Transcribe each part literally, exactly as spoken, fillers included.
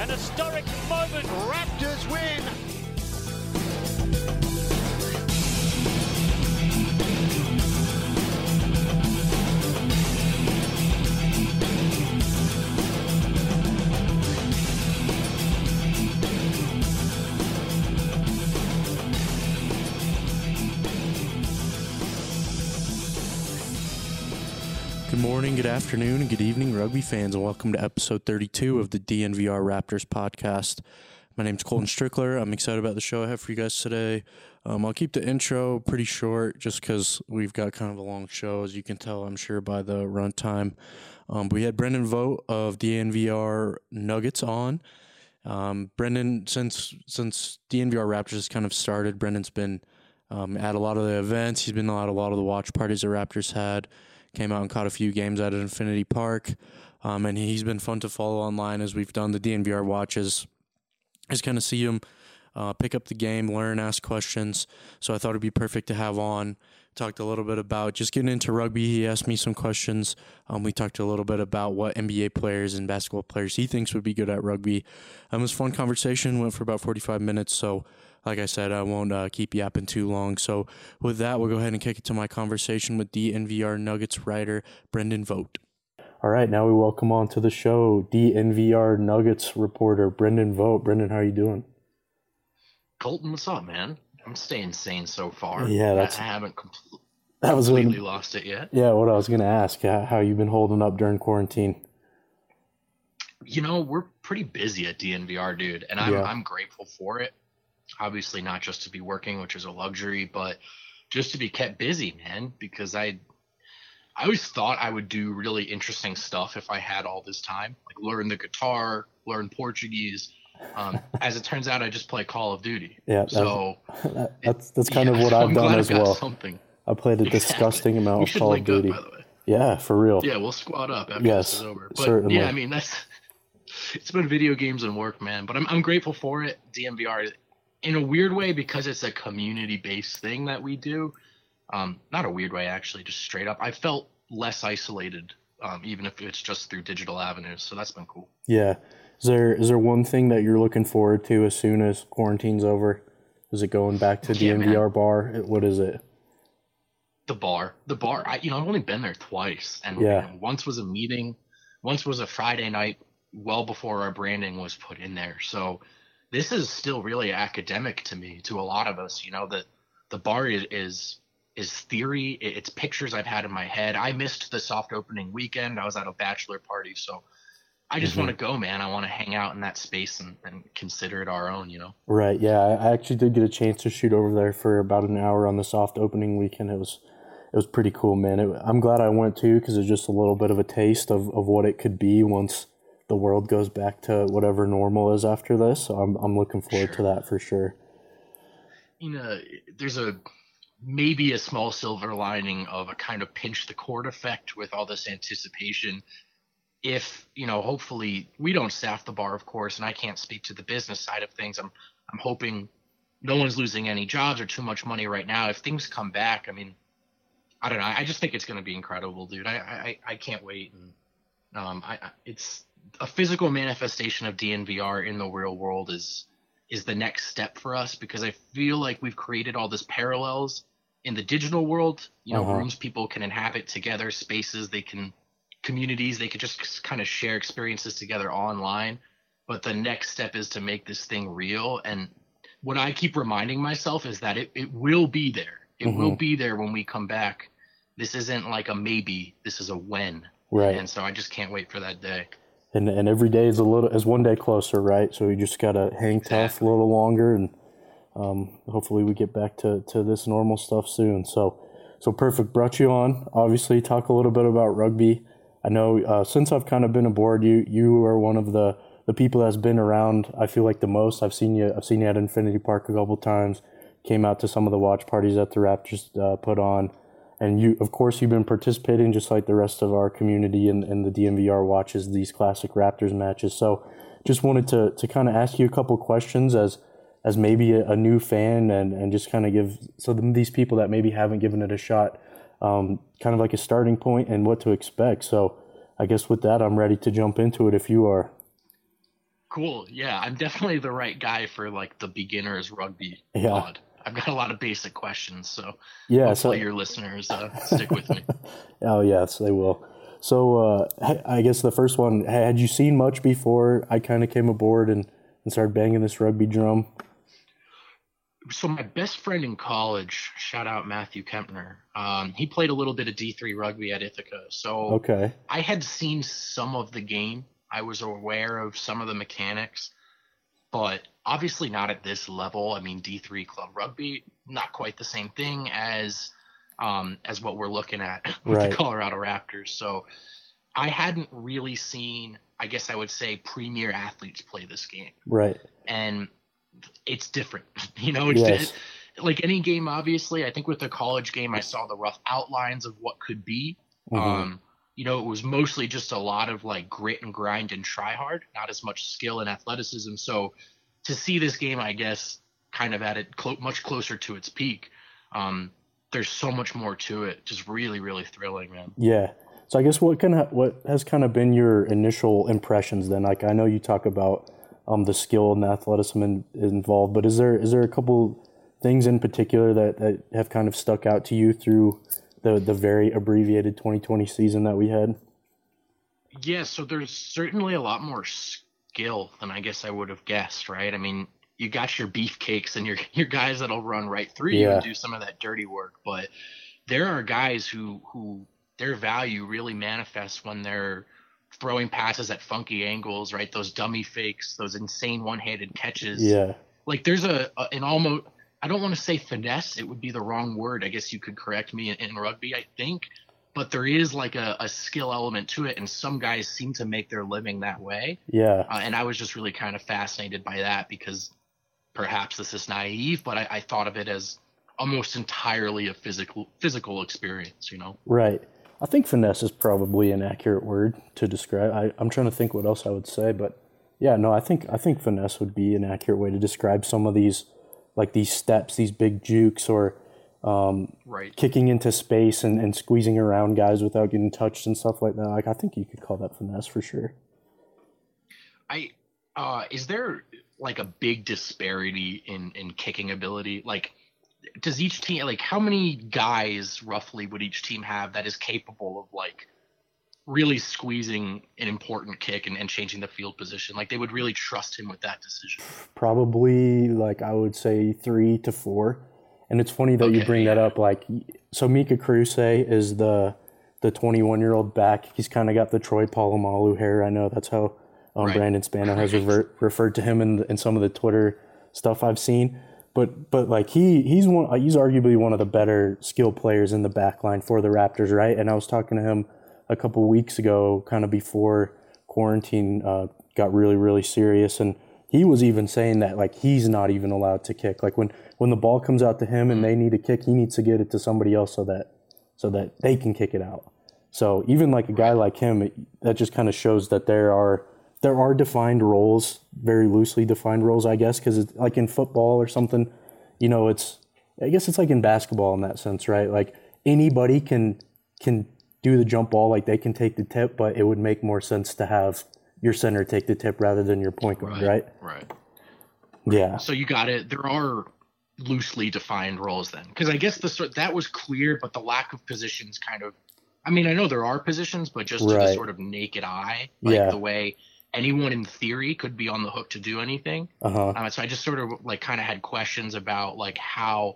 An historic moment. Raptors win. Good morning, good afternoon, and good evening, rugby fans, and welcome to episode thirty-two of the D N V R Raptors podcast. My name's Colton Strickler. I'm excited about the show I have for you guys today. Um, I'll keep the intro pretty short just because we've got kind of a long show, as you can tell, I'm sure, by the runtime. Um, we had Brendan Vogt of D N V R Nuggets on. Um, Brendan, since since D N V R Raptors has kind of started, Brendan's been um, at a lot of the events. He's been at a lot of the watch parties the Raptors had. Came out and caught a few games out at Infinity Park, um, and he's been fun to follow online as we've done the D N V R watches. Just kind of see him uh, pick up the game, learn, ask questions. So I thought it'd be perfect to have on. Talked a little bit about just getting into rugby. He asked me some questions. Um, we talked a little bit about what N B A players and basketball players he thinks would be good at rugby. Um, it was a fun conversation. Went for about forty-five minutes. So like I said, I won't uh, keep yapping too long. So with that, we'll go ahead and kick it to my conversation with D N V R Nuggets writer Brendan Vogt. All right, now we welcome on to the show D N V R Nuggets reporter Brendan Vogt. Brendan, how are you doing? Colton, what's up, man? I'm staying sane so far. Yeah, that's. I haven't compl- that was completely when, lost it yet. Yeah, what I was going to ask, how, how you been holding up during quarantine? You know, we're pretty busy at D N V R, dude, and I'm Yeah. I'm grateful for it. Obviously, not just to be working, which is a luxury, but just to be kept busy, man. Because I, I always thought I would do really interesting stuff if I had all this time, like learn the guitar, learn Portuguese. Um, as it turns out, I just play Call of Duty. Yeah, so that, that's that's kind yeah, of what so I've I'm done glad as I've got well. Something. I played a disgusting exactly. amount we of should Call of link up, Duty. by the way. Yeah, for real. Yeah, we'll squad up after Yes, this is over. But certainly. yeah, I mean that's it's been video games and work, man. But I'm I'm grateful for it. D N V R in a weird way because it's a community based thing that we do. Um, not a weird way actually, just straight up. I felt less isolated, um, even if it's just through digital avenues. So that's been cool. Yeah. Is there is there one thing that you're looking forward to as soon as quarantine's over? Is it going back to Yeah, D N V R man. bar? What is it? The bar, the bar. I, you know, I've only been there twice, and Yeah. you know, once was a meeting, once was a Friday night, well before our branding was put in there. So this is still really academic to me, to a lot of us. You know, that the bar is, is is theory. It's pictures I've had in my head. I missed the soft opening weekend. I was at a bachelor party, so I just Mhm. want to go, man. I want to hang out in that space and, and consider it our own. You know. Right. Yeah, I I actually did get a chance to shoot over there for about an hour on the soft opening weekend. It was it was pretty cool, man. It, I'm glad I went too because it's just a little bit of a taste of, of what it could be once the world goes back to whatever normal is after this. So I'm I'm looking forward Sure. to that for sure. You know, there's a maybe a small silver lining of a kind of pinch the cord effect with all this anticipation. If, you know, hopefully we don't staff the bar, of course, and I can't speak to the business side of things. I'm I'm hoping no one's losing any jobs or too much money right now. If things come back, I mean, I don't know. I just think it's going to be incredible, dude. I I, I can't wait. And um, I, I it's a physical manifestation of D N V R in the real world is is the next step for us because I feel like we've created all this parallels in the digital world. You know, Uh-huh. rooms people can inhabit together, spaces they can, communities they could just kind of share experiences together online. But the next step is to make this thing real. And what I keep reminding myself is that it, it will be there. It Mhm. will be there when we come back. This isn't like a maybe. This is a when. Right. And so I just can't wait for that day. And and every day is a little is one day closer, right? So we just gotta hang tough a Exactly. little longer, and um, hopefully we get back to, to this normal stuff soon. So so perfect. Brought you on. Obviously, talk a little bit about rugby. I know uh, since I've kind of been aboard, you you are one of the, the people that's been around. I feel like the most. I've seen you. I've seen you at Infinity Park a couple times. Came out to some of the watch parties that the Raptors uh, put on. And you, of course, you've been participating just like the rest of our community in, in the D N V R watches these classic Raptors matches. So just wanted to to kind of ask you a couple questions as as maybe a, a new fan and, and just kind of give so these people that maybe haven't given it a shot um, kind of like a starting point and what to expect. So I guess with that, I'm ready to jump into it if you are. Cool. Yeah, I'm definitely the right guy for like the beginners rugby Yeah. pod. I've got a lot of basic questions, so Yeah. hopefully So, your listeners uh, stick with me. oh yes, they will. So, uh, h- I guess the first one, had you seen much before I kind of came aboard and, and started banging this rugby drum? So my best friend in college, shout out Matthew Kempner, um, he played a little bit of D three rugby at Ithaca. So Okay. I had seen some of the game. I was aware of some of the mechanics, but obviously not at this level. I mean, D three club rugby, not quite the same thing as um, as what we're looking at with Right. the Colorado Raptors. So I hadn't really seen, I guess I would say, premier athletes play this game, Right. and it's different. You know, it's Yes. like any game. Obviously, I think with the college game, I saw the rough outlines of what could be. Mhm. Um, you know, it was mostly just a lot of like grit and grind and try hard, not as much skill and athleticism. So to see this game, I guess, kind of at it clo- much closer to its peak, um, there's so much more to it. Just really, really thrilling, man. Yeah. So I guess what kind of what has kind of been your initial impressions then? Like I know you talk about um, the skill and the athleticism in, involved, but is there is there a couple things in particular that, that have kind of stuck out to you through the the very abbreviated twenty twenty season that we had? Yeah, so there's certainly a lot more skill than I guess I would have guessed, right? I mean, you got your beefcakes and your your guys that'll run right through you Yeah. and do some of that dirty work, but there are guys who who their value really manifests when they're throwing passes at funky angles, right? Those dummy fakes, those insane one-handed catches. Yeah. Like there's a, a an almost, I don't want to say finesse, it would be the wrong word. I guess you could correct me in, in rugby, I think, but there is like a, a skill element to it, and some guys seem to make their living that way. Yeah. Uh, and I was just really kind of fascinated by that because perhaps this is naive, but I, I thought of it as almost entirely a physical physical experience, you know? Right. I think finesse is probably an accurate word to describe. I, I'm trying to think what else I would say, but yeah, no, I think I think finesse would be an accurate way to describe some of these, like these steps, these big jukes, or um, Right. kicking into space and, and squeezing around guys without getting touched and stuff like that. Like I think you could call that finesse for sure. I uh is there like a big disparity in in kicking ability? Like does each team, like how many guys roughly would each team have that is capable of like really squeezing an important kick and, and changing the field position? Like they would really trust him with that decision. Probably like I would say three to four. And it's funny that you Okay, bring that yeah. up. Like, so Mika Kruse is the the twenty-one year old back. He's kind of got the Troy Polamalu hair. I know that's how um, Right. Brandon Spano has Right. revert, referred to him in in some of the Twitter stuff I've seen. But but like he he's one he's arguably one of the better skill players in the back line for the Raptors, right? And I was talking to him a couple weeks ago, kind of before quarantine uh, got really really serious, and he was even saying that like he's not even allowed to kick. Like when, when the ball comes out to him and they need a kick, he needs to get it to somebody else so that so that they can kick it out. So even like a guy like him, it, that just kind of shows that there are there are defined roles, very loosely defined roles, I guess, because it's like in football or something, you know, it's I guess it's like in basketball in that sense, right? Like anybody can can do the jump ball, like they can take the tip, but it would make more sense to have your center take the tip rather than your point guard, right? Right. Yeah. So you got it. There are loosely defined roles then, because I guess the sort that was clear, but the lack of positions kind of. I mean, I know there are positions, but just to the Right. sort of naked eye, like Yeah. the way anyone in theory could be on the hook to do anything. Uh-huh. Um, so I just sort of like kind of had questions about like how,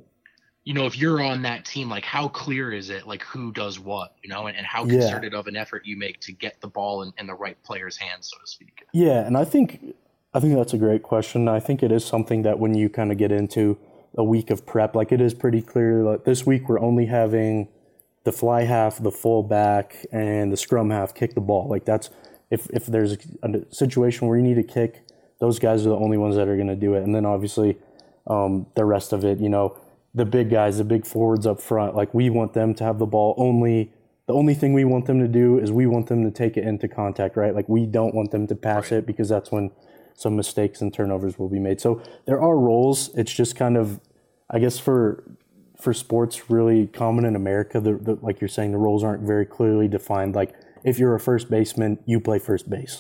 you know, if you're on that team, like how clear is it, like who does what, you know, and, and how Yeah. concerted of an effort you make to get the ball in, in the right player's hands, so to speak. Yeah, and I think I think that's a great question. I think it is something that when you kind of get into a week of prep, like it is pretty clear that this week we're only having the fly half, the full back, and the scrum half kick the ball. Like that's if if there's a situation where you need to kick, those guys are the only ones that are going to do it. And then obviously um, the rest of it, you know, the big guys, the big forwards up front, like we want them to have the ball only. The only thing we want them to do is we want them to take it into contact, right? Like we don't want them to pass Right. it because that's when some mistakes and turnovers will be made. So there are roles. It's just kind of, I guess for for sports really common in America, the, the, like you're saying, the roles aren't very clearly defined. Like if you're a first baseman, you play first base.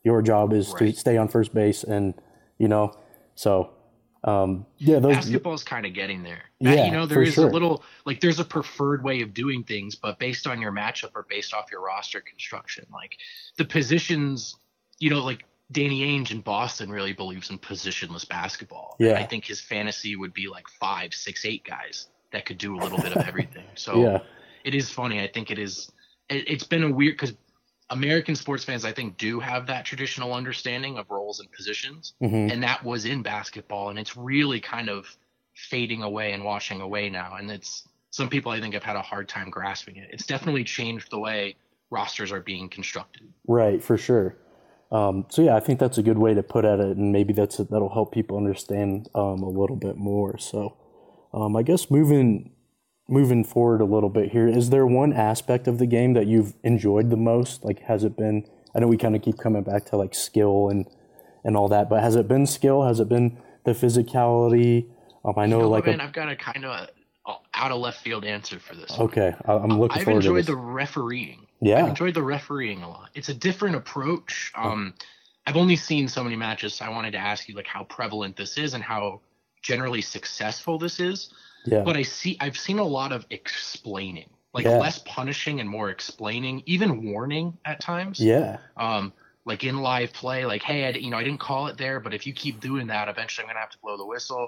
Your job is Right. to stay on first base, and you know, so um, yeah, those Basketball's kind of getting there. That, you yeah know, there for is a sure. little like there's a preferred way of doing things, but based on your matchup or based off your roster construction, like the positions, you know, like Danny Ainge in Boston really believes in positionless basketball. And I Yeah, think his fantasy would be like five, six, eight guys that could do a little bit of everything. So yeah, it is funny. I think it is. It, it's been a weird because American sports fans, I think, do have that traditional understanding of roles and positions, hmm and that was in basketball, and it's really kind of fading away and washing away now. And it's some people I think have had a hard time grasping it. It's definitely changed the way rosters are being constructed. right, for sure. Um, so yeah, I think that's a good way to put at it, and maybe that's that'll help people understand um, a little bit more. So um, I guess moving moving forward a little bit here, is there one aspect of the game that you've enjoyed the most? Like, has it been? I know we kind of keep coming back to like skill and and all that, but has it been skill? Has it been the physicality? Um, I You know know what, like a man? I've got a kind of out of left field answer for this one. okay, I, I'm looking I've forward to enjoyed this. the refereeing. I've Yeah. enjoyed the refereeing a lot. It's a different approach. Um, I've only seen so many matches, so I wanted to ask you like how prevalent this is and how generally successful this is. Yeah. But I see I've seen a lot of explaining, like Yeah. less punishing and more explaining, even warning at times. Yeah. Um, like in live play, like, hey, I, you know, I didn't call it there, but if you keep doing that, eventually I'm gonna have to blow the whistle.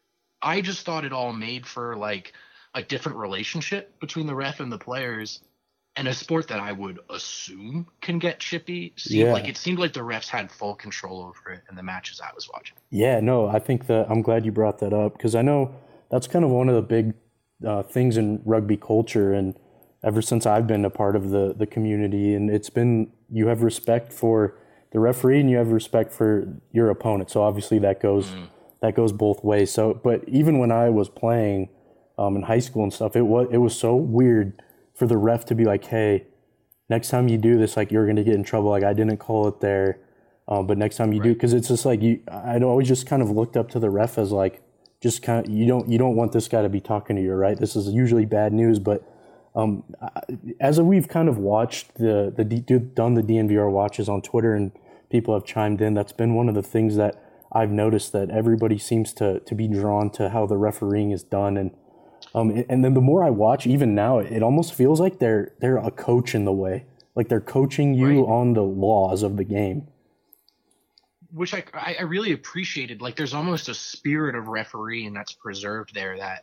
I just thought it all made for like a different relationship between the ref and the players, and a sport that I would assume can get chippy. Seemed Yeah. like it seemed like the refs had full control over it in the matches I was watching. Yeah, no, I think that I'm glad you brought that up because I know that's kind of one of the big uh, things in rugby culture, and ever since I've been a part of the the community, and it's been you have respect for the referee and you have respect for your opponent. So obviously that goes Mm, that goes both ways. So, but even when I was playing um, in high school and stuff, it was it was so weird for the ref to be like, "Hey, next time you do this, like you're gonna get in trouble. Like I didn't call it there." Um, but next time you do, right. because it's just like you, I'd always just kind of looked up to the ref as like, just kind of you don't you don't want this guy to be talking to you, right? This is usually bad news. But um, as we've kind of watched the the D- done the D N V R watches on Twitter and people have chimed in, that's been one of the things that I've noticed that everybody seems to to be drawn to how the refereeing is done, and um, and then the more I watch, even now, it almost feels like they're they're a coach in the way, like they're coaching you Right. on the laws of the game. Which I, I I really appreciated. Like, there's almost a spirit of refereeing that's preserved there that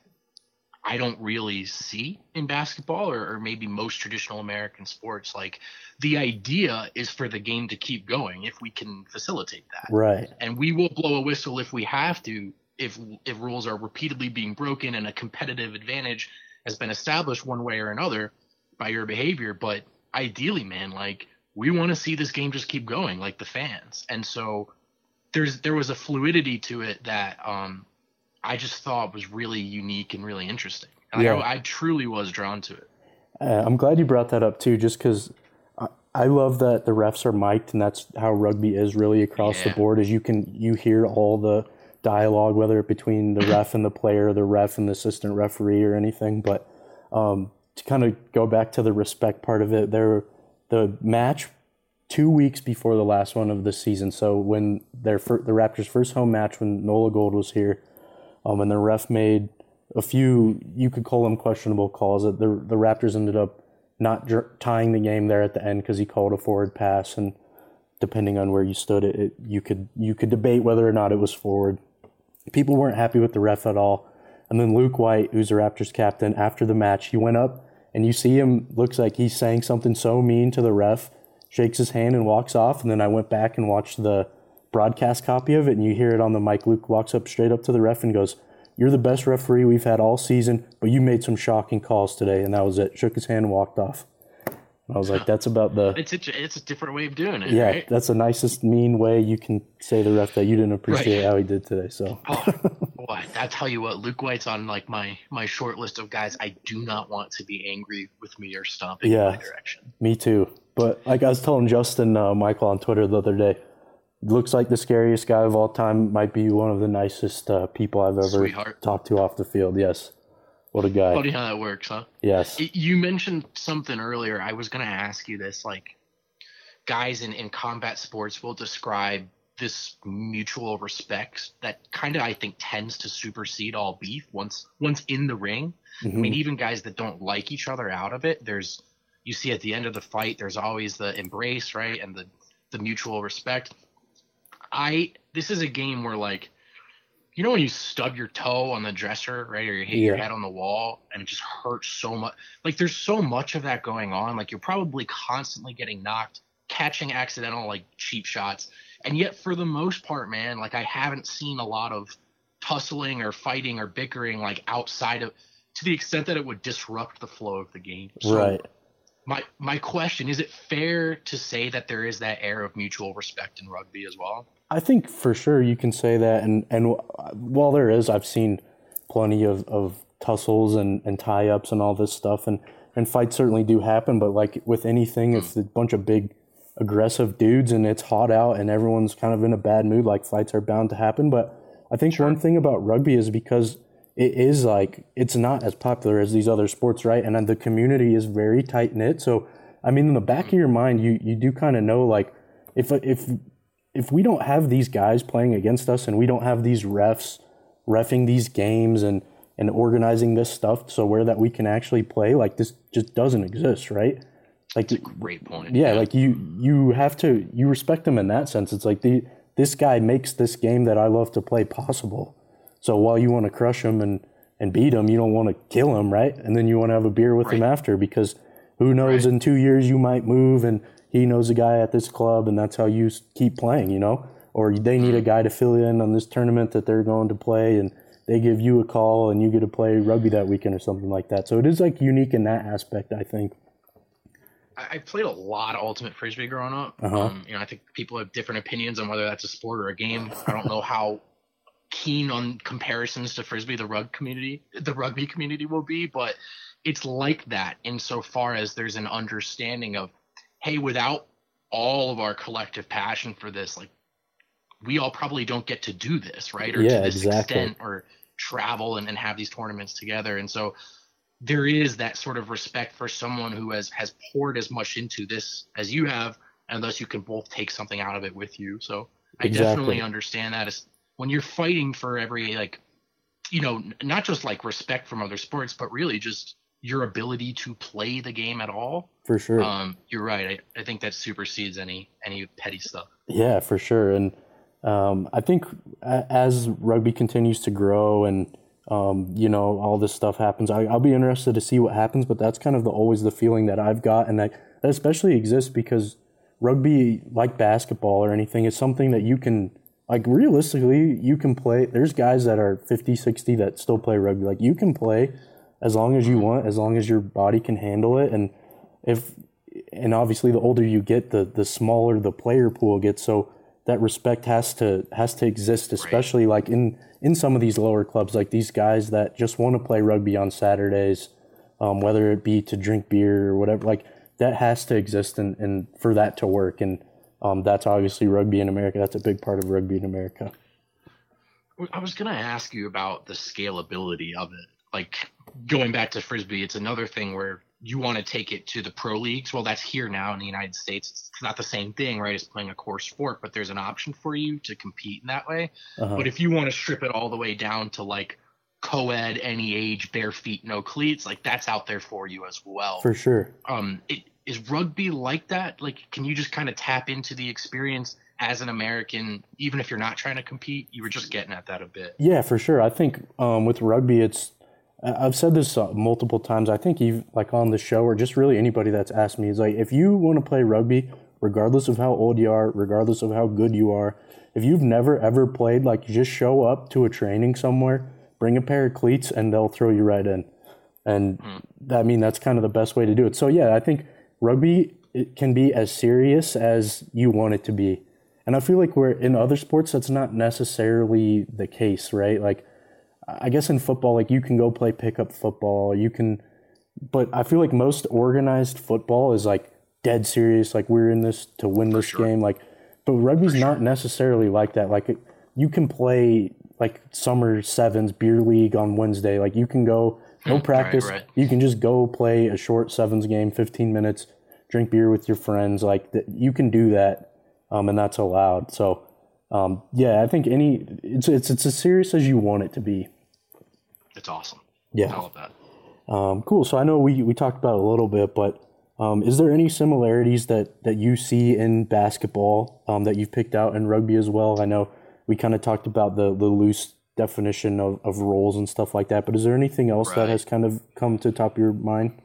I don't really see in basketball or, or maybe most traditional American sports. Like, the idea is for the game to keep going if we can facilitate that. Right. And we will blow a whistle if we have to, if if rules are repeatedly being broken and a competitive advantage has been established one way or another by your behavior. But ideally, man, like, we want to see this game just keep going, like the fans. And so there's there was a fluidity to it that um I just thought was really unique and really interesting. Like, Yeah. I, I truly was drawn to it. Uh, I'm glad you brought that up too, just because I, I love that the refs are mic'd, and that's how rugby is really across the Yeah. board. Is you can you hear all the dialogue, whether it between the ref and the player, the ref and the assistant referee, or anything. But um, to kind of go back to the respect part of it, there the match two weeks before the last one of the season. So when their fir- the Raptors' first home match, when Nola Gold was here, um, and the ref made a few, you could call them questionable calls. That the the Raptors ended up not dr- tying the game there at the end because he called a forward pass, and depending on where you stood, it, it you could you could debate whether or not it was forward. People weren't happy with the ref at all. And then Luke White, who's the Raptors captain, after the match, he went up and you see him, looks like he's saying something so mean to the ref, shakes his hand and walks off. And then I went back and watched the broadcast copy of it, and you hear it on the mic. Luke walks up straight up to the ref and goes, "You're the best referee we've had all season, but you made some shocking calls today." And that was it. Shook his hand and walked off. And I was like, that's about the, It's a, it's a different way of doing it, yeah, right? that's the nicest mean way you can say the ref that you didn't appreciate Right. how he did today. So, Oh, boy, I tell you what, Luke White's on like my my short list of guys I do not want to be angry with me or stomping in Yeah. my direction. me too. But like I was telling Justin uh, Michael on Twitter the other day, looks like the scariest guy of all time, might be one of the nicest uh, people I've ever Sweetheart. talked to off the field. Yes. What a guy. Funny how that works, huh? Yes. It- You mentioned something earlier. I was going to ask you this. Like, guys in, in combat sports will describe this mutual respect that kind of, I think, tends to supersede all beef once once in the ring. Mm-hmm. I mean, even guys that don't like each other out of it, there's you see at the end of the fight, there's always the embrace, right, and the the mutual respect. I this is a game where, like, you know when you stub your toe on the dresser, right, or you hit Yeah. your head on the wall and it just hurts so much. Like, there's so much of that going on. Like, you're probably constantly getting knocked, catching accidental, like, cheap shots. And yet, for the most part, man, like, I haven't seen a lot of tussling or fighting or bickering, like, outside of, to the extent that it would disrupt the flow of the game. So Right. my my question, is it fair to say that there is that air of mutual respect in rugby as well? I think for sure you can say that, and and while there is, I've seen plenty of, of tussles and, and tie-ups and all this stuff, and, and fights certainly do happen, but like with anything, if it's a bunch of big aggressive dudes and it's hot out and everyone's kind of in a bad mood, like fights are bound to happen. But I think Sure. one thing about rugby is because it is like, it's not as popular as these other sports, right? And then the community is very tight-knit. So, I mean, in the back of your mind, you, you do kind of know, like, if if if we don't have these guys playing against us and we don't have these refs reffing these games and, and organizing this stuff so where that we can actually play, like, this just doesn't exist, right? Like, That's a great point. yeah, like you you have to, you respect them in that sense. It's like, the this guy makes this game that I love to play possible. So while you want to crush him and, and beat him, you don't want to kill him, right? And then you want to have a beer with him Right. after, because who knows, Right. in two years you might move and he knows a guy at this club and that's how you s- keep playing, you know? Or they need a guy to fill in on this tournament that they're going to play and they give you a call and you get to play rugby that weekend or something like that. So it is like unique in that aspect, I think. I I played a lot of ultimate frisbee growing up. Uh-huh. Um, you know, I think people have different opinions on whether that's a sport or a game. I don't know how keen on comparisons to frisbee the rug community, the rugby community will be, but it's like that insofar as there's an understanding of, hey, without all of our collective passion for this, like, we all probably don't get to do this, right? Or Yeah, to this exactly. extent, or travel and, and have these tournaments together. And so there is that sort of respect for someone who has has poured as much into this as you have, and thus you can both take something out of it with you. So I Exactly. definitely understand that. As when you're fighting for every, like, you know, n- not just like respect from other sports, but really just your ability to play the game at all. For sure. Um, you're right. I, I think that supersedes any any petty stuff. Yeah, for sure. And um, I think a- as rugby continues to grow and, um, you know, all this stuff happens, I, I'll be interested to see what happens, but that's kind of the, always the feeling that I've got. And that, that especially exists because rugby, like basketball or anything, is something that you can, like, realistically, you can play. There's guys that are fifty, sixty that still play rugby. Like, you can play as long as you want, as long as your body can handle it. And if, and obviously the older you get, the the smaller the player pool gets. So that respect has to has to exist, especially like in in some of these lower clubs, like these guys that just want to play rugby on Saturdays, um, whether it be to drink beer or whatever. Like, that has to exist, and, and for that to work. And um, that's obviously rugby in America. That's a big part of rugby in America. I was going to ask you about the scalability of it. Like, going back to frisbee, it's another thing where you want to take it to the pro leagues. Well, that's here now in the United States. It's not the same thing, right, as playing a core sport, but there's an option for you to compete in that way. Uh-huh. But if you want to strip it all the way down to, like, co-ed, any age, bare feet, no cleats, like, that's out there for you as well. For sure. Um, it, is rugby like that? Like, can you just kind of tap into the experience as an American, even if you're not trying to compete? You were just getting at that a bit. Yeah, for sure. I think um, with rugby, it's, I- I've said this uh, multiple times. I think even like on the show or just really anybody that's asked me is like, if you want to play rugby, regardless of how old you are, regardless of how good you are, if you've never ever played, like, just show up to a training somewhere, bring a pair of cleats, and they'll throw you right in. And I mean, that's kind of the best way to do it. So yeah, I think rugby, it can be as serious as you want it to be. And I feel like we're in other sports, that's not necessarily the case, right? Like, I guess in football, like, you can go play pickup football, you can, but I feel like most organized football is like dead serious. Like, we're in this to win this sure. game. Like, but rugby's not necessarily like that. Like, it, you can play like summer sevens beer league on Wednesday. Like, you can go, no Hmm, practice. right, right. You can just go play a short sevens game, fifteen minutes, drink beer with your friends. Like that, you can do that, um, and that's allowed. So, um, yeah, I think any it's it's it's as serious as you want it to be. It's awesome. Yeah, I love that. Um, cool. So I know we we talked about it a little bit, but um, is there any similarities that that you see in basketball um, that you've picked out in rugby as well? I know we kind of talked about the the loose definition of, of roles and stuff like that, but is there anything else Right. that has kind of come to the top of your mind?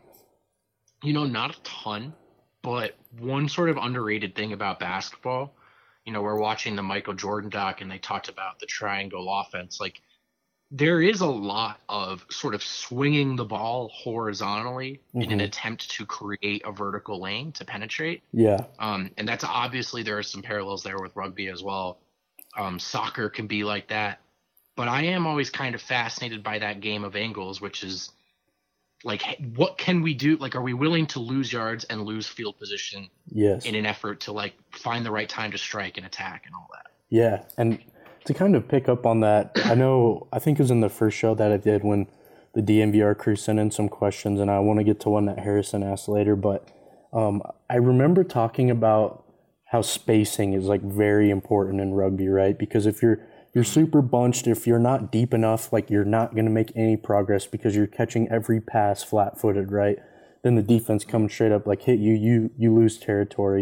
You know, not a ton, but one sort of underrated thing about basketball, you know, we're watching the Michael Jordan doc and they talked about the triangle offense. Like, there is a lot of sort of swinging the ball horizontally mm-hmm. in an attempt to create a vertical lane to penetrate. Yeah. Um, and that's obviously there are some parallels there with rugby as well. Um, soccer can be like that. But I am always kind of fascinated by that game of angles, which is like, what can we do? Like, are we willing to lose yards and lose field position yes. in an effort to like find the right time to strike and attack and all that? Yeah. And to kind of pick up on that, I know, I think it was in the first show that I did when the D N V R crew sent in some questions, and I want to get to one that Harrison asked later, but um, I remember talking about how spacing is like very important in rugby, right? Because if you're you're super bunched, if you're not deep enough, like you're not going to make any progress because you're catching every pass flat-footed, right? Then the defense comes straight up, like hit you, you you lose territory.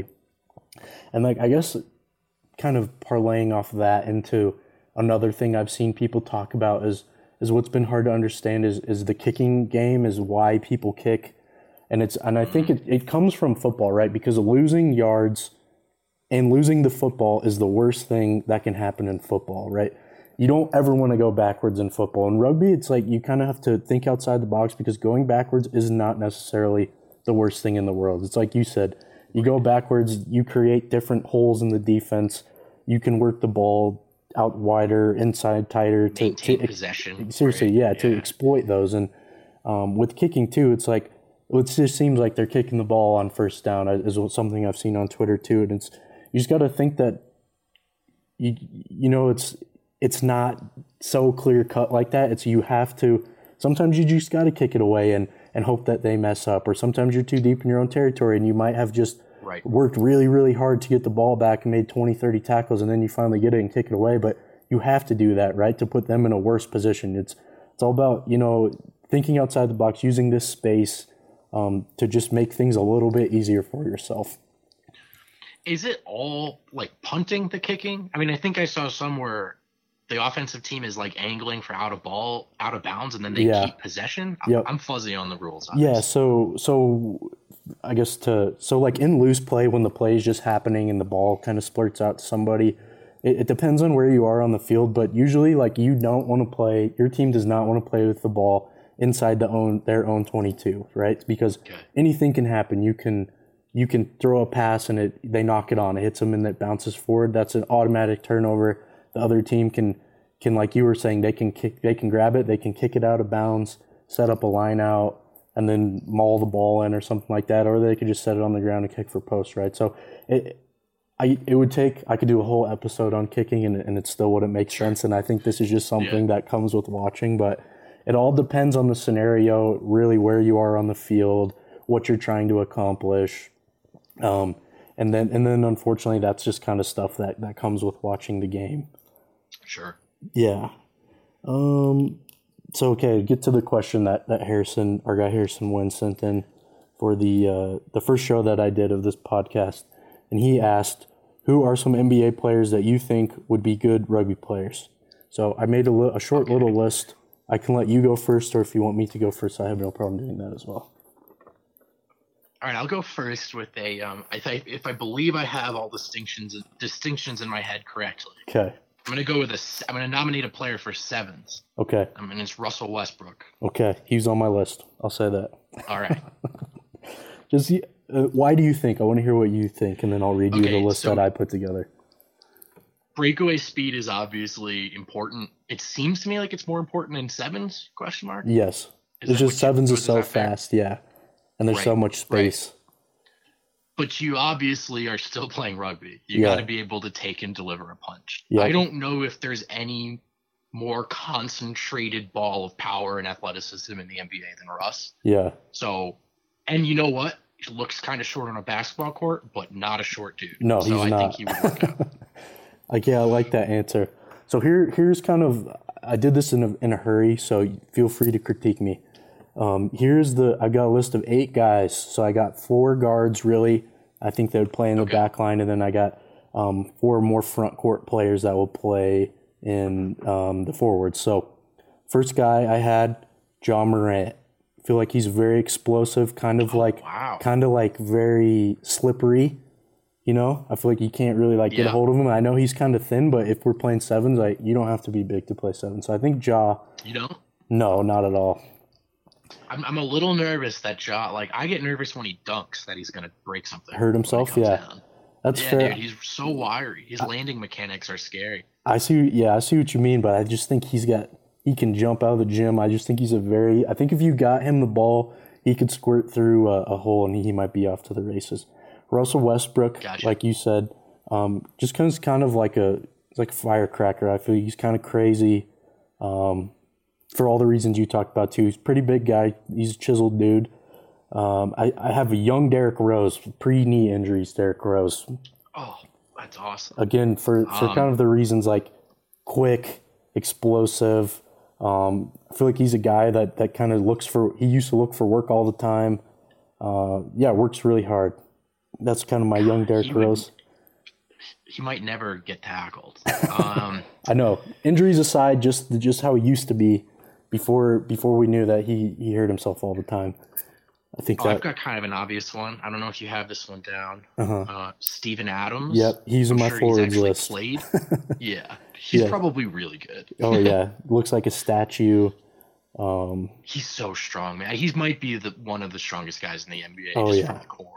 And like, I guess kind of parlaying off of that into another thing I've seen people talk about is is what's been hard to understand is is the kicking game, is why people kick. And it's and I think it, it comes from football, right? Because losing yards and losing the football is the worst thing that can happen in football, right? You don't ever want to go backwards in football. In rugby, it's like you kind of have to think outside the box because going backwards is not necessarily the worst thing in the world. It's like you said, you go backwards, you create different holes in the defense. You can work the ball out wider, inside tighter. To, Maintain to, possession. Seriously, right? yeah, yeah, to exploit those. And um, with kicking too, it's like, it just seems like they're kicking the ball on first down is something I've seen on Twitter too. And it's, you just got to think that, you you know, it's it's not so clear cut like that. It's you have to, sometimes you just got to kick it away and, and hope that they mess up. Or sometimes you're too deep in your own territory and you might have just right. worked really, really hard to get the ball back and made twenty, thirty tackles, and then you finally get it and kick it away. But you have to do that, right, to put them in a worse position. It's it's all about, you know, thinking outside the box, using this space um, to just make things a little bit easier for yourself. Is it all like punting the kicking? I mean, I think I saw somewhere the offensive team is like angling for out of ball, out of bounds, and then they yeah. keep possession. Yep. I'm fuzzy on the rules. On yeah. this. So, so I guess to, so like in loose play, when the play is just happening and the ball kind of splurts out to somebody, it, it depends on where you are on the field, but usually like you don't want to play, your team does not want to play with the ball inside the own, their own twenty-two, right? Because okay. anything can happen. You can, you can throw a pass and it they knock it on. It hits them and it bounces forward. That's an automatic turnover. The other team can can like you were saying, they can kick, they can grab it, they can kick it out of bounds, set up a line out, and then maul the ball in or something like that. Or they could just set it on the ground and kick for post, right? So it I it would take I could do a whole episode on kicking and and it still wouldn't make sense. And I think this is just something yeah. that comes with watching, but it all depends on the scenario, really where you are on the field, what you're trying to accomplish. Um, and then, and then, unfortunately, that's just kind of stuff that, that comes with watching the game. Sure. Yeah. Um. So, okay, get to the question that, that Harrison, our guy Harrison Wynn sent in for the uh, the first show that I did of this podcast, and he asked, "Who are some N B A players that you think would be good rugby players?" So, I made a, li- a short okay. little list. I can let you go first, or if you want me to go first, I have no problem doing that as well. All right, I'll go first with a. Um, I th- if I believe I have all distinctions distinctions in my head correctly. Okay. I'm gonna go with a. I'm gonna nominate a player for sevens. Okay. I mean, it's Russell Westbrook. Okay, he's on my list. I'll say that. All right. Just uh, why do you think? I want to hear what you think, and then I'll read okay, you the list so that I put together. Breakaway speed is obviously important. It seems to me like it's more important in sevens? Question mark. Yes. Is it's just sevens you, is so fast, yeah. And there's right, so much space. Right. But you obviously are still playing rugby. You yeah. got to be able to take and deliver a punch. Yep. I don't know if there's any more concentrated ball of power and athleticism in the N B A than Russ. Yeah. So, and you know what? he looks kind of short on a basketball court, but not a short dude. No, so he's I not. think he would work out. Like, yeah, I like that answer. So here, here's kind of, I did this in a, in a hurry, so feel free to critique me. Um, here's the, I got a list of eight guys. So I got four guards, really. I think they would play in the Okay. back line, and then I got um, four more front court players that will play in um, the forwards. So first guy I had, Ja Morant. I feel like he's very explosive, kind of like, Wow. kind of like very slippery. You know, I feel like you can't really like get Yeah. a hold of him. I know he's kind of thin, but if we're playing sevens, like you don't have to be big to play sevens. So I think Ja, You know? no, not at all. I'm, I'm a little nervous that Ja, like, I get nervous when he dunks that he's going to break something. Hurt when he himself? comes Yeah. down. That's Yeah, fair. dude, he's so wiry. His landing mechanics are scary. I see. Yeah, I see what you mean, but I just think he's got. He can jump out of the gym. I just think he's a very. I think if you got him the ball, he could squirt through a, a hole and he, he might be off to the races. Russell Westbrook, Gotcha. like you said, um, just kind kind of like a like a firecracker. I feel he's kind of crazy, um, for all the reasons you talked about too. He's a pretty big guy. He's a chiseled dude. Um, I, I have a young Derrick Rose, pre knee injuries. Derrick Rose, Oh, that's awesome. again for, for Um, kind of the reasons like quick, explosive. Um, I feel like he's a guy that, that kind of looks for. He used to look for work all the time. Uh, yeah, works really hard. That's kind of my young Derrick he would- Rose. He might never get tackled. Um, I know. Injuries aside, just just how he used to be before before we knew that he, he hurt himself all the time. I think oh, I've that. got kind of an obvious one. I don't know if you have this one down. Uh-huh. Uh, Steven Adams. Yep, he's in I'm my sure forwards he's actually list. played. Yeah, he's Yeah. probably really good. Oh yeah, looks like a statue. Um, He's so strong, man. He might be the one of the strongest guys in the N B A. Oh, just yeah. from the core.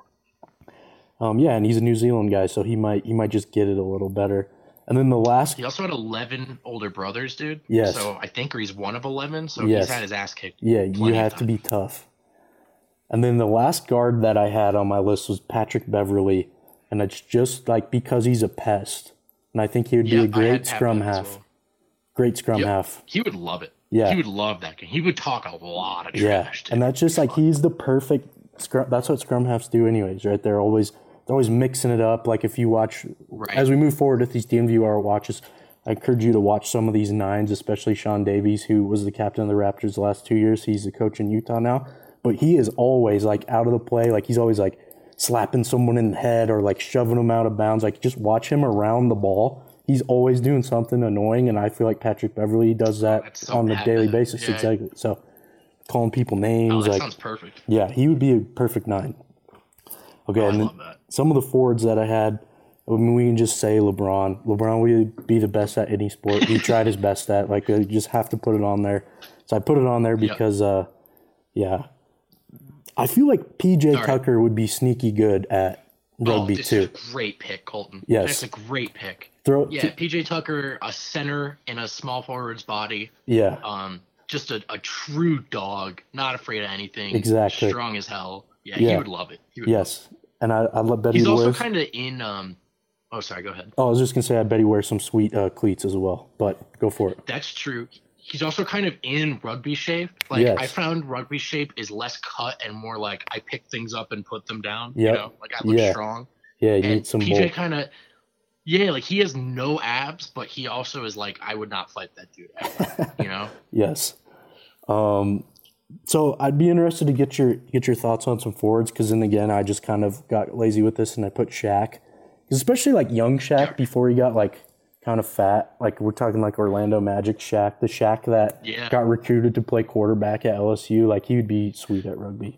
um, yeah, and he's a New Zealand guy, so he might he might just get it a little better. And then the last, He also had eleven older brothers, dude. Yes. So I think he's one of eleven. So Yes. he's had his ass kicked. yeah, you plenty of have to times. be tough. And then the last guard that I had on my list was Patrick Beverly, and it's just like because he's a pest, and I think he would be Yeah, a I great had Pat scrum Bev as half. well. Great scrum Yep. half. He would love it. Yeah. He would love that game. He would talk a lot of Yeah, trash. and too. that's just like he's the perfect scrum. That's what scrum halves do, anyways, right? They're always they're always mixing it up. Like if you watch Right. as we move forward with these D N V R watches, I encourage you to watch some of these nines, especially Sean Davies, who was the captain of the Raptors the last two years. He's the coach in Utah now, but he is always like out of the play. Like he's always like slapping someone in the head or like shoving them out of bounds. Like just watch him around the ball. He's always doing something annoying, and I feel like Patrick Beverly does that That's so on a bad, daily man. basis. Yeah. Exactly. So calling people Oh, names, that like sounds perfect. yeah, he would be a perfect nine. Okay, Oh, I and then love that. some of the forwards that I had, I mean, we can just say LeBron. LeBron would be the best at any sport. He tried his best at. Like, you just have to put it on there. So I put it on there Yep. because, uh, yeah, I feel like P J right. Tucker would be sneaky good at rugby oh, this too. is a great pick, Colton. Yes. That's a great pick. Throw, Yeah, P J Tucker, a center in a small forward's body. yeah, Um, just a, a true dog, not afraid of anything. Exactly. Strong as hell. Yeah, Yeah. he would love it. He would yes, and I I love bet He's he also wears. kind of in. Um, oh, sorry. Go ahead. oh, I was just gonna say I bet he wears some sweet uh, cleats as well. But go for it. That's true. He's also kind of in rugby shape. Like Yes. I found rugby shape is less cut and more like I pick things up and put them down. Yep. You know, like I look Yeah. strong. Yeah, you And need some P J bulk. kind of, yeah, like he has no abs, but he also is like I would not fight that dude. Ever, you know. Yes. Um, so I'd be interested to get your get your thoughts on some forwards because then again I just kind of got lazy with this and I put Shaq, 'Cause especially like young Shaq before he got like kind of fat. Like we're talking like Orlando Magic Shaq, the Shaq that Yeah. got recruited to play quarterback at L S U. Like he would be sweet at rugby.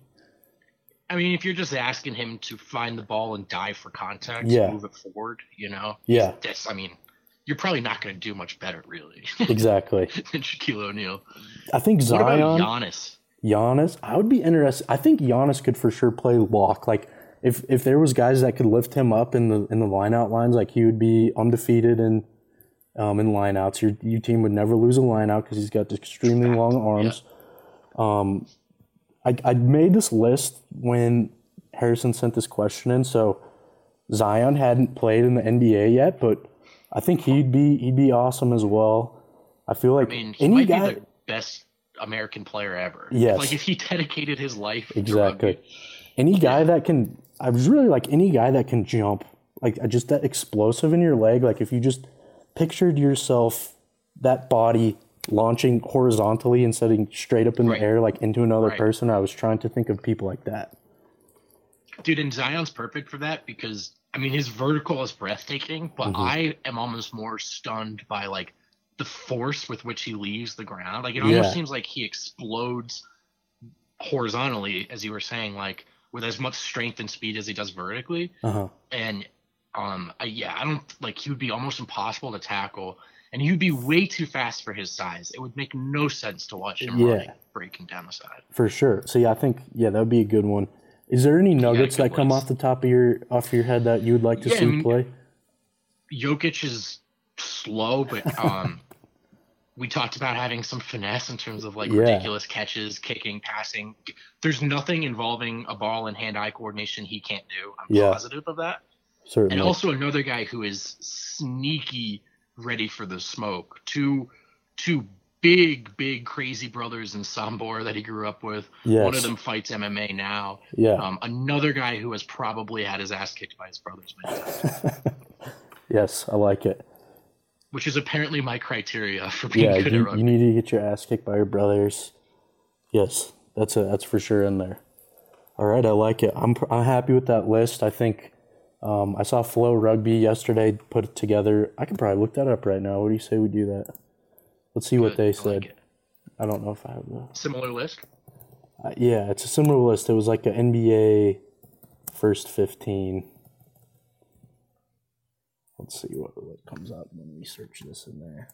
I mean, if you're just asking him to find the ball and dive for contact, Yeah. move it forward, you know. Yeah. That's. I mean, you're probably not going to do much better, really, Exactly. than Shaquille O'Neal. I think What about Zion, Giannis? Giannis, I would be interested. I think Giannis could for sure play lock. Like if if there was guys that could lift him up in the in the line out lines, like he would be undefeated in um in line outs. Your your team would never lose a line out because he's got extremely long arms. Um, I I made this list when Harrison sent this question in, so Zion hadn't played in the N B A yet, but I think he'd be he'd be awesome as well. I feel like I mean, he any might guy. be the best American player ever. Yes. Like if he dedicated his life. to Exactly. rugby. Any guy Yeah. that can, I was really like any guy that can jump, like just that explosive in your leg. Like if you just pictured yourself, that body launching horizontally instead of straight up in Right. the air, like into another Right. person, I was trying to think of people like that. Dude, and Zion's perfect for that because, I mean, his vertical is breathtaking, but Mhm. I am almost more stunned by, like, the force with which he leaves the ground. Like, it Yeah. almost seems like he explodes horizontally, as you were saying, like, with as much strength and speed as he does vertically. Uh-huh. And, um, I, yeah, I don't, like, he would be almost impossible to tackle, and he would be way too fast for his size. It would make no sense to watch him Yeah. running, breaking down the side. For sure. So yeah, I think yeah, that would be a good one. Is there any nuggets good that come list. off the top of your off your head that you would like to Yeah, I see mean- play? Jokic is slow, but um, we talked about having some finesse in terms of like Yeah. ridiculous catches, kicking, passing. There's nothing involving a ball and hand-eye coordination he can't do. I'm Yeah. positive of that. Certainly. And also another guy who is sneaky, ready for the smoke. Two, two big, big crazy brothers in Sambor that he grew up with. Yes. One of them fights M M A now. yeah. Um, another guy who has probably had his ass kicked by his brothers many times. Yes, I like it. Which is apparently my criteria for being Yeah, good at you, rugby. you need to get your ass kicked by your brothers. Yes, that's a, that's for sure in there. All right, I like it. I'm pr- I'm happy with that list. I think um, I saw Flow Rugby yesterday put it together. I can probably look that up right now. What do you say we do that? Let's see what Good. they I said. like it. I don't know if I have the. Similar list. Uh, yeah, it's a similar list. It was like an N B A first fifteen. Let's see what, what comes up when we search this in there.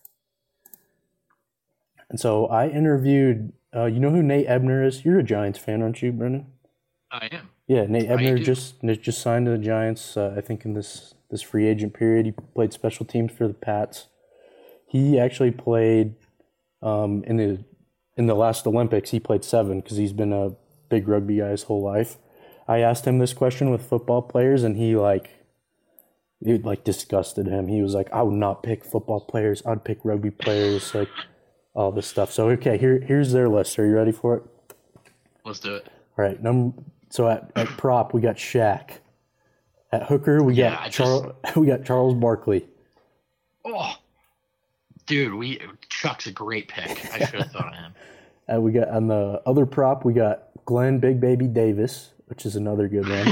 And so I interviewed, uh, you know who Nate Ebner is? You're a Giants fan, aren't you, Brendan? I am. Yeah, Nate I Ebner do. just just signed to the Giants. Uh, I think in this this free agent period, he played special teams for the Pats. He actually played um, in the in the last Olympics. He played seven because he's been a big rugby guy his whole life. I asked him this question with football players, and he like it like disgusted him. He was like, "I would not pick football players. I'd pick rugby players." Like all this stuff. So okay, here here's their list. Are you ready for it? Let's do it. All right, number so at, at prop we got Shaq. At hooker we Yeah, got I just- Charles we got Charles Barkley. Oh, dude, we Chuck's a great pick. I should have thought of him. Uh, we got on the other prop we got Glenn Big Baby Davis, which is another good one.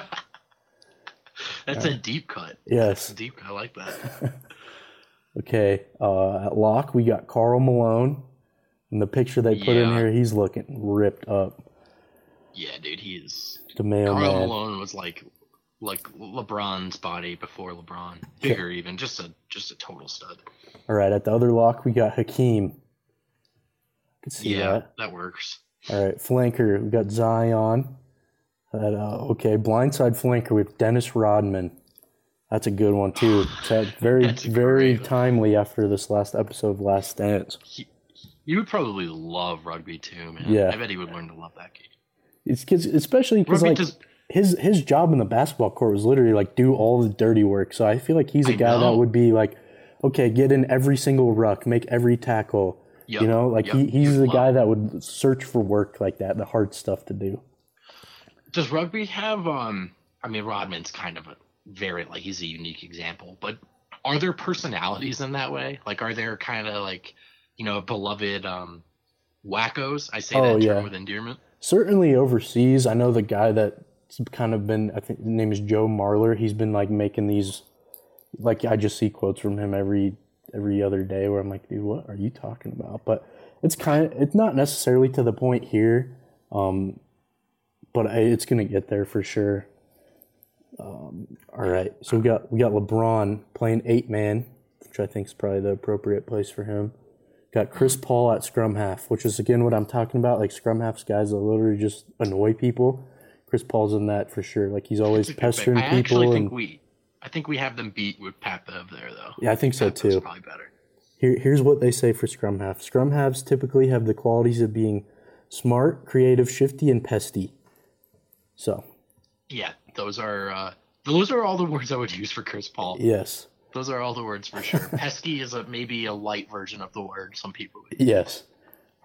That's a deep cut. Yes. Deep cut. I like that. Okay. Uh, at lock we got Karl Malone. And the picture they put in Yeah. here, he's looking ripped up. Yeah, dude, he is. The Karl mailman. Malone was like, like LeBron's body before LeBron, bigger even. Just a just a total stud. All right, at the other lock we got Hakeem. I can see Yeah, that. that works. All right, flanker, we got Zion. At, uh, okay, blindside flanker with Dennis Rodman. That's a good one too. It's uh, very, That's a very great one. timely after this last episode of Last Dance. He, you would probably love rugby too, man. Yeah. I bet he would learn to love that game. It's 'cause- especially because Rugby like does. his his job in the basketball court was literally like do all the dirty work. So I feel like he's a I guy that know. would be like, okay, get in every single ruck, make every tackle. Yep, You know, like yep, he, he's you'd the love guy it. that would search for work like that, the hard stuff to do. Does rugby have? Um, I mean, Rodman's kind of a very like he's a unique example, but are there personalities in that way? Like, are there kind of like, you know, beloved um, wackos? I say Oh, that term yeah. with endearment. Certainly overseas, I know the guy that's kind of been, I think his name is Joe Marler. He's been like making these, like I just see quotes from him every every other day where I'm like, dude, what are you talking about? But it's kind of, it's not necessarily to the point here, um, but I, it's gonna get there for sure. Um, all right, so we got we got LeBron playing eight man, which I think is probably the appropriate place for him. Got Chris Paul at scrum half, which is again what I'm talking about. Like scrum half's guys that literally just annoy people. Chris Paul's in that for sure. Like he's always That's a good pick. pestering I actually people. think And we, I think we have them beat with Pat Bev there though. yeah, I think so Pat Bev's too. Probably better. Here, here's what they say for scrum half. Scrum halves typically have the qualities of being smart, creative, shifty, and pesty. So Yeah, those are uh, those are all the words I would use for Chris Paul. yes, Those are all the words for sure. Pesky is a maybe a light version of the word some people would use. yes.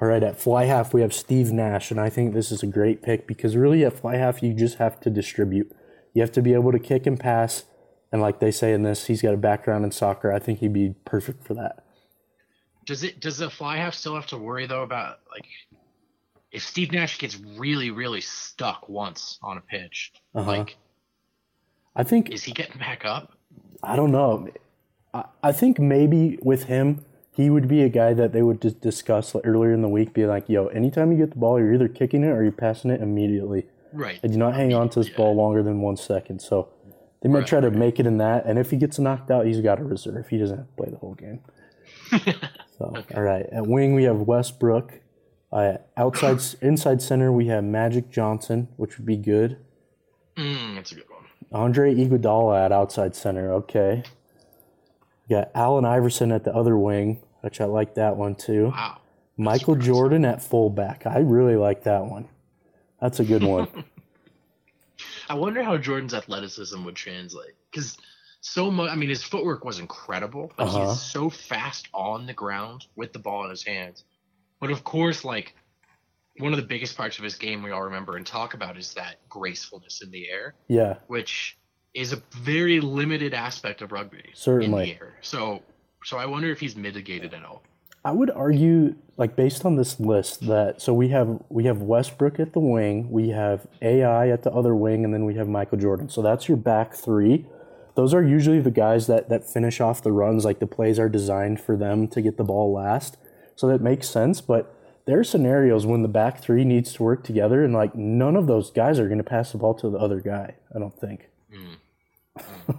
All right, at fly half, we have Steve Nash, and I think this is a great pick because really at fly half, you just have to distribute. You have to be able to kick and pass, and like they say in this, he's got a background in soccer. I think he'd be perfect for that. Does it? Does the fly half still have to worry, though, about, like, if Steve Nash gets really, really stuck once on a pitch, uh-huh. like, I think is he getting back up? I don't know. I, I think maybe with him, he would be a guy that they would just discuss earlier in the week, be like, yo, anytime you get the ball, you're either kicking it or you're passing it immediately. Right. And do not hang on to this yeah. ball longer than one second. So they might right, try to right. make it in that. And if he gets knocked out, he's got a reserve. He doesn't have to play the whole game. so, okay. All right. At wing, we have Westbrook. Uh, outside, inside center, we have Magic Johnson, which would be good. Mm, that's a good one. Andre Iguodala at outside center. Okay. We got Allen Iverson at the other wing, which I like that one too. Wow. Michael Jordan at fullback. I really like that one. That's a good one. I wonder how Jordan's athleticism would translate. Because so much, I mean, his footwork was incredible, but uh-huh. he's so fast on the ground with the ball in his hands. But of course, like, one of the biggest parts of his game we all remember and talk about is that gracefulness in the air. Yeah. Which is a very limited aspect of rugby. Certainly. In the air. So, so I wonder if he's mitigated at all. I would argue, like, based on this list, that so we have we have Westbrook at the wing, we have A I at the other wing, and then we have Michael Jordan. So that's your back three. Those are usually the guys that, that finish off the runs. Like, the plays are designed for them to get the ball last. So that makes sense. But there are scenarios when the back three needs to work together, and, like, none of those guys are going to pass the ball to the other guy, I don't think. Mm. Mm.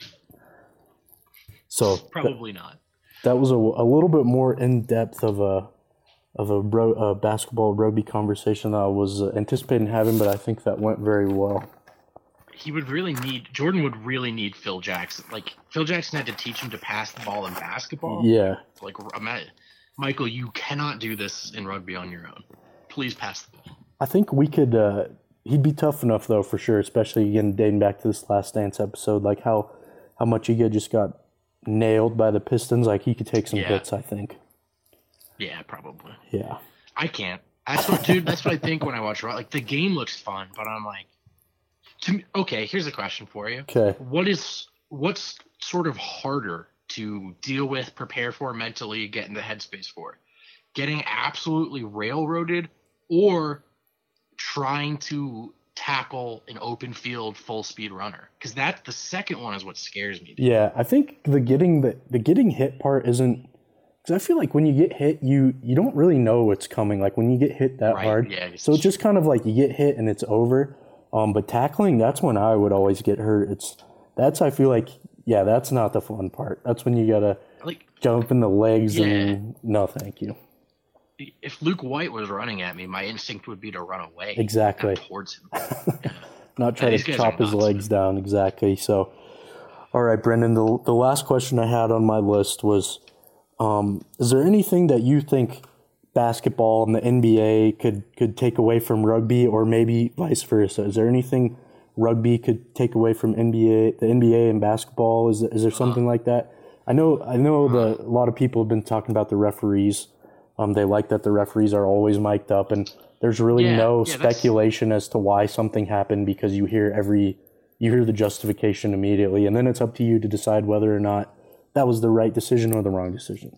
so Probably that, not. That was a, a little bit more in depth of a of a, bro, a basketball rugby conversation that I was anticipating having, but I think that went very well. He would really need Jordan would really need Phil Jackson. Like, Phil Jackson had to teach him to pass the ball in basketball. Yeah. Like, Michael, you cannot do this in rugby on your own. Please pass the ball. I think we could. Uh, he'd be tough enough though, for sure. Especially again dating back to this Last Dance episode, like how how much he just got nailed by the Pistons. Like, he could take some yeah. hits, I think. Yeah, probably. Yeah. I can't. That's what, dude. That's what I think when I watch. Like, the game looks fun, but I'm like, to me, okay. Here's a question for you. Okay. What is what's sort of harder to deal with, prepare for mentally, get in the headspace for? Getting absolutely railroaded, or trying to tackle an open field full speed runner? Because that's the second one is what scares me. Yeah, I think the getting the, the getting hit part isn't, because I feel like when you get hit, you you don't really know what's coming. Like, when you get hit that right, hard, yeah, so it's just kind of like you get hit and it's over. Um, but tackling, that's when I would always get hurt. It's that's I feel like yeah, that's not the fun part. That's when you gotta like jump in the legs yeah. and no, thank you. If Luke White was running at me, my instinct would be to run away. Exactly. Towards him. Yeah. Not try to chop his legs down. Exactly. So, all right, Brendan, the, the last question I had on my list was, um, is there anything that you think basketball and the N B A could, could take away from rugby, or maybe vice versa? Is there anything rugby could take away from N B A, the N B A and basketball? Is, is there something uh, like that? I know I know the, a lot of people have been talking about the referees. Um, they like that the referees are always mic'd up, and there's really yeah, no yeah, speculation as to why something happened, because you hear every you hear the justification immediately, and then it's up to you to decide whether or not that was the right decision or the wrong decision.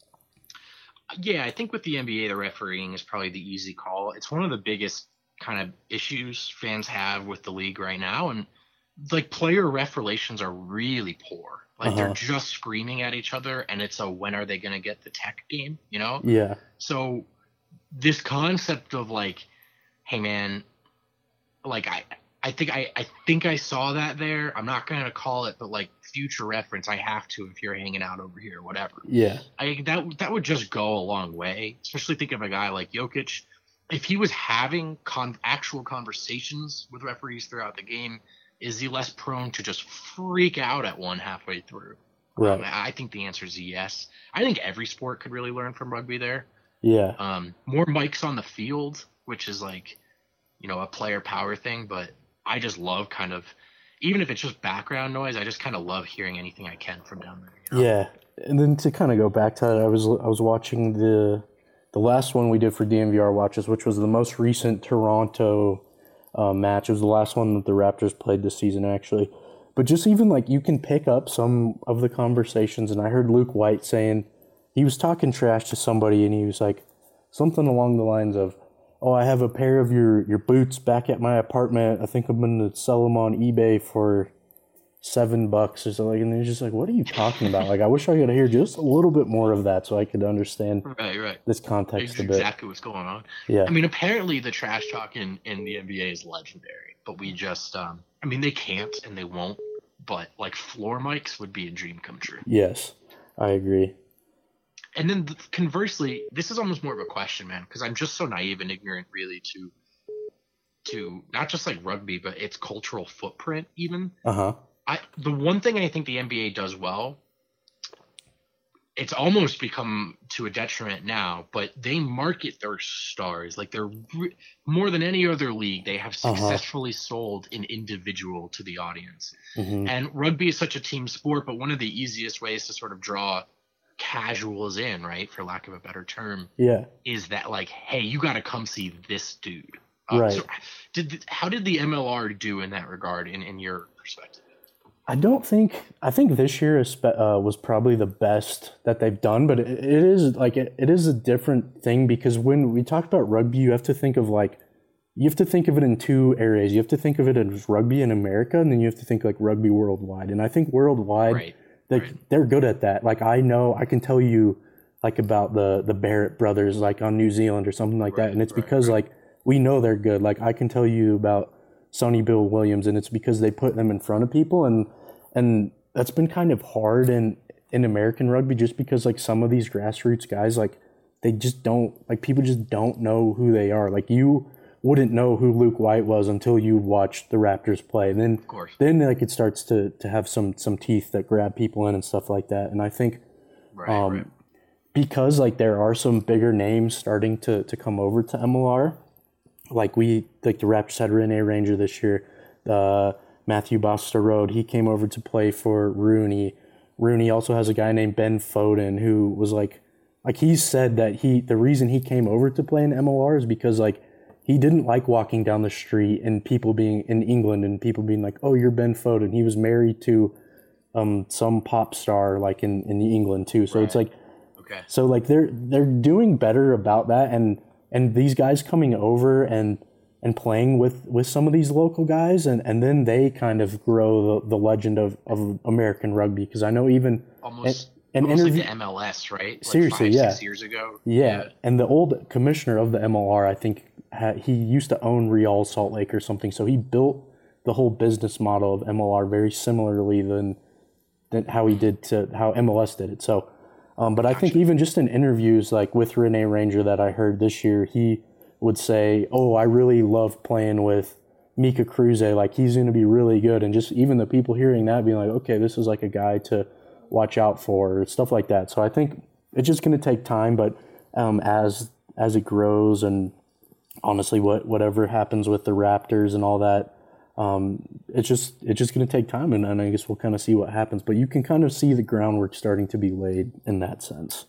Yeah, I think with the N B A, the refereeing is probably the easy call. It's one of the biggest kind of issues fans have with the league right now, and like player ref relations are really poor. Like uh-huh. they're just screaming at each other, and it's a when are they going to get the tech game, you know? Yeah. So this concept of like, hey man, like I, I think I, I think I saw that there. I'm not going to call it, but like future reference, I have to if you're hanging out over here, whatever. Yeah. I that that would just go a long way. Especially think of a guy like Jokic. If he was having con- actual conversations with referees throughout the game, is he less prone to just freak out at one halfway through? Right. Um, I think the answer is yes. I think every sport could really learn from rugby there. Yeah. Um, more mics on the field, which is like, you know, a player power thing. But I just love kind of, even if it's just background noise, I just kind of love hearing anything I can from down there. You know? Yeah. And then to kind of go back to that, I was I was watching the the last one we did for D N V R Watches, which was the most recent Toronto uh, match. It was the last one that the Raptors played this season, actually. But just even, like, you can pick up some of the conversations, and I heard Luke White saying, he was talking trash to somebody, and he was like, something along the lines of, oh, I have a pair of your, your boots back at my apartment. I think I'm going to sell them on eBay for seven bucks or something. And they're just like, what are you talking about? Like, I wish I could hear just a little bit more of that so I could understand right, right. this context It's a bit. Exactly what's going on. Yeah. I mean, apparently the trash talk in, in the N B A is legendary, but we just, um, I mean, they can't and they won't, but like floor mics would be a dream come true. Yes, I agree. And then conversely, this is almost more of a question, man, because I'm just so naive and ignorant, really, to to not just like rugby, but its cultural footprint, even. Uh huh. I the one thing I think the N B A does well, it's almost become to a detriment now, but they market their stars like they're re- more than any other league. They have successfully uh-huh. sold an individual to the audience, mm-hmm. and rugby is such a team sport. But one of the easiest ways to sort of draw casuals in, right, for lack of a better term, yeah, is that like, hey, you got to come see this dude. Uh, right. So did how did the M L R do in that regard, in in your perspective? I don't think I think this year is, uh, was probably the best that they've done, but it, it is like it, it is a different thing because when we talk about rugby, you have to think of like you have to think of it in two areas. You have to think of it as rugby in America, and then you have to think like rugby worldwide. And I think worldwide, right, they right. they're good at that. Like I know I can tell you like about the the Barrett brothers like on New Zealand or something like right, that, and it's right, because right. like we know they're good. Like I can tell you about Sonny Bill Williams, and it's because they put them in front of people, and and that's been kind of hard in, in American rugby just because like some of these grassroots guys, like they just don't, like people just don't know who they are. Like you wouldn't know who Luke White was until you watched the Raptors play. And then, of course. then like it starts to, to have some, some teeth that grab people in and stuff like that. And I think right, um, right. because like there are some bigger names starting to, to come over to M L R, like we, like the Raptors had Rene Ranger this year, the Matthew Basta-Road, he came over to play for Rooney. Rooney also has a guy named Ben Foden who was like, like he said that he, the reason he came over to play in M L R is because like he didn't like walking down the street and people being in England and people being like, oh, you're Ben Foden. He was married to um, some pop star like in, in England too. So right. it's like, okay. So like they're, they're doing better about that. And, and these guys coming over and, and playing with, with some of these local guys, and, and then they kind of grow the, the legend of, of American rugby. Because I know even almost, an, an almost interview, like the M L S, right? Like seriously, five, yeah, six years ago. Yeah. yeah, and the old commissioner of the M L R, I think ha, he used to own Real Salt Lake or something. So he built the whole business model of M L R very similarly than than how he did to how M L S did it. So, um, but gotcha. I think even just in interviews like with Rene Ranger that I heard this year, he would say, oh, I really love playing with Mika Kruse. Like, he's going to be really good. And just even the people hearing that being like, okay, this is like a guy to watch out for, or stuff like that. So I think it's just going to take time. But um, as as it grows and honestly, what whatever happens with the Raptors and all that, um, it's just it's just going to take time. And, and I guess we'll kind of see what happens. But you can kind of see the groundwork starting to be laid in that sense.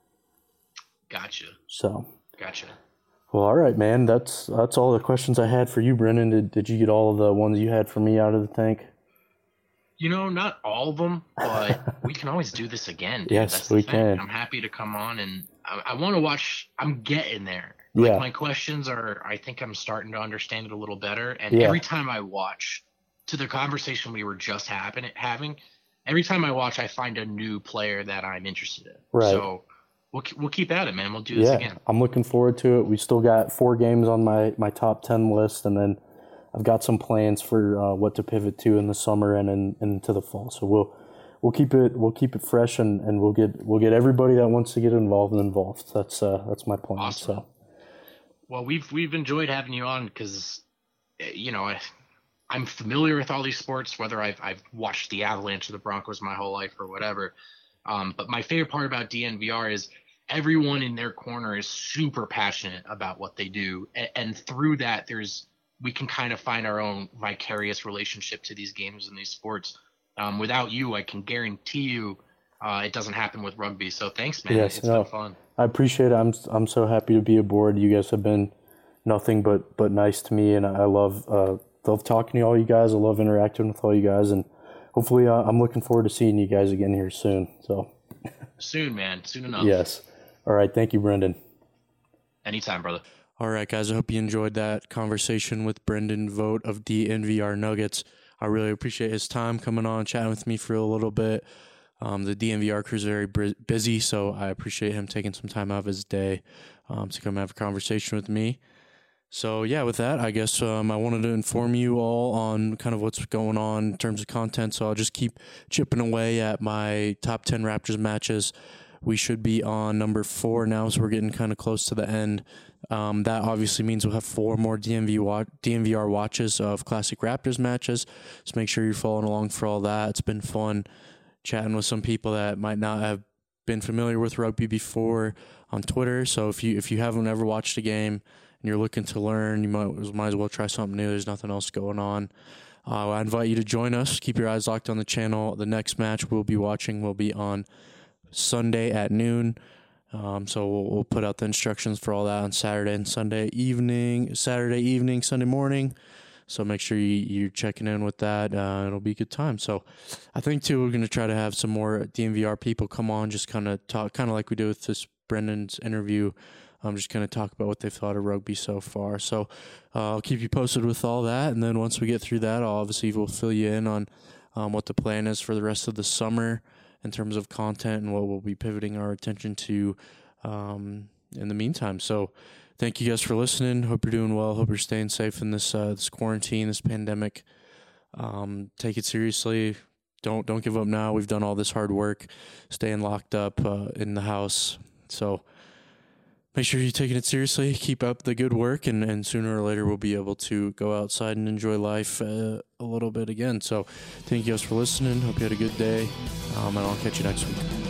Gotcha. So. Gotcha. Well, all right, man. That's that's all the questions I had for you, Brendan. Did did you get all of the ones you had for me out of the tank? You know, not all of them, but we can always do this again. Dude. Yes, That's the we thing. can. I'm happy to come on, and I, I want to watch. I'm getting there. Like, yeah. My questions are, I think I'm starting to understand it a little better. And yeah. every time I watch, to the conversation we were just happen, having, every time I watch, I find a new player that I'm interested in. Right. So we'll we'll keep at it, man. We'll do this yeah, again. I'm looking forward to it. We still got four games on my, my top ten list, and then I've got some plans for uh, what to pivot to in the summer and in, into the fall. So we'll we'll keep it we'll keep it fresh, and, and we'll get we'll get everybody that wants to get involved involved. That's uh that's my plan. Awesome. So. Well, we've we've enjoyed having you on because, you know, I, I'm familiar with all these sports, whether I've I've watched the Avalanche or the Broncos my whole life or whatever. Um, but my favorite part about D N V R is everyone in their corner is super passionate about what they do, and, and through that, there's we can kind of find our own vicarious relationship to these games and these sports. Um, without you, I can guarantee you, uh, it doesn't happen with rugby. So thanks, man. Yes, It's no, been fun. I appreciate it. I'm I'm so happy to be aboard. You guys have been nothing but but nice to me, and I love uh, love talking to all you guys. I love interacting with all you guys, and hopefully, uh, I'm looking forward to seeing you guys again here soon. So soon, man, soon enough. Yes. All right. Thank you, Brendan. Anytime, brother. All right, guys. I hope you enjoyed that conversation with Brendan Vogt of D N V R Nuggets. I really appreciate his time coming on, chatting with me for a little bit. Um, the D N V R crew is very busy, so I appreciate him taking some time out of his day um, to come have a conversation with me. So, yeah, with that, I guess um, I wanted to inform you all on kind of what's going on in terms of content. So I'll just keep chipping away at my top ten Raptors matches. We should be on number four now, so we're getting kind of close to the end. Um, that obviously means we'll have four more D N V wa- D N V R watches of classic Raptors matches. So make sure you're following along for all that. It's been fun chatting with some people that might not have been familiar with rugby before on Twitter. So if you if you haven't ever watched a game and you're looking to learn, you might, might as well try something new. There's nothing else going on. Uh, I invite you to join us. Keep your eyes locked on the channel. The next match we'll be watching will be on Sunday at noon. Um, so we'll, we'll put out the instructions for all that on Saturday and Sunday evening, Saturday evening, Sunday morning. So make sure you, you're checking in with that. Uh, it'll be a good time. So I think, too, we're going to try to have some more D N V R people come on, just kind of talk, kind of like we did with this Brendan's interview, um, just kind of talk about what they've thought of rugby so far. So uh, I'll keep you posted with all that. And then once we get through that, I'll obviously will fill you in on um, what the plan is for the rest of the summer in terms of content and what we'll be pivoting our attention to um, in the meantime. So thank you guys for listening. Hope you're doing well. Hope you're staying safe in this uh, this quarantine, this pandemic. Um, take it seriously. Don't don't give up now. We've done all this hard work, staying locked up uh, in the house. So make sure you're taking it seriously. Keep up the good work, and, and sooner or later we'll be able to go outside and enjoy life uh, a little bit again. So thank you guys for listening. Hope you had a good day, um, and I'll catch you next week.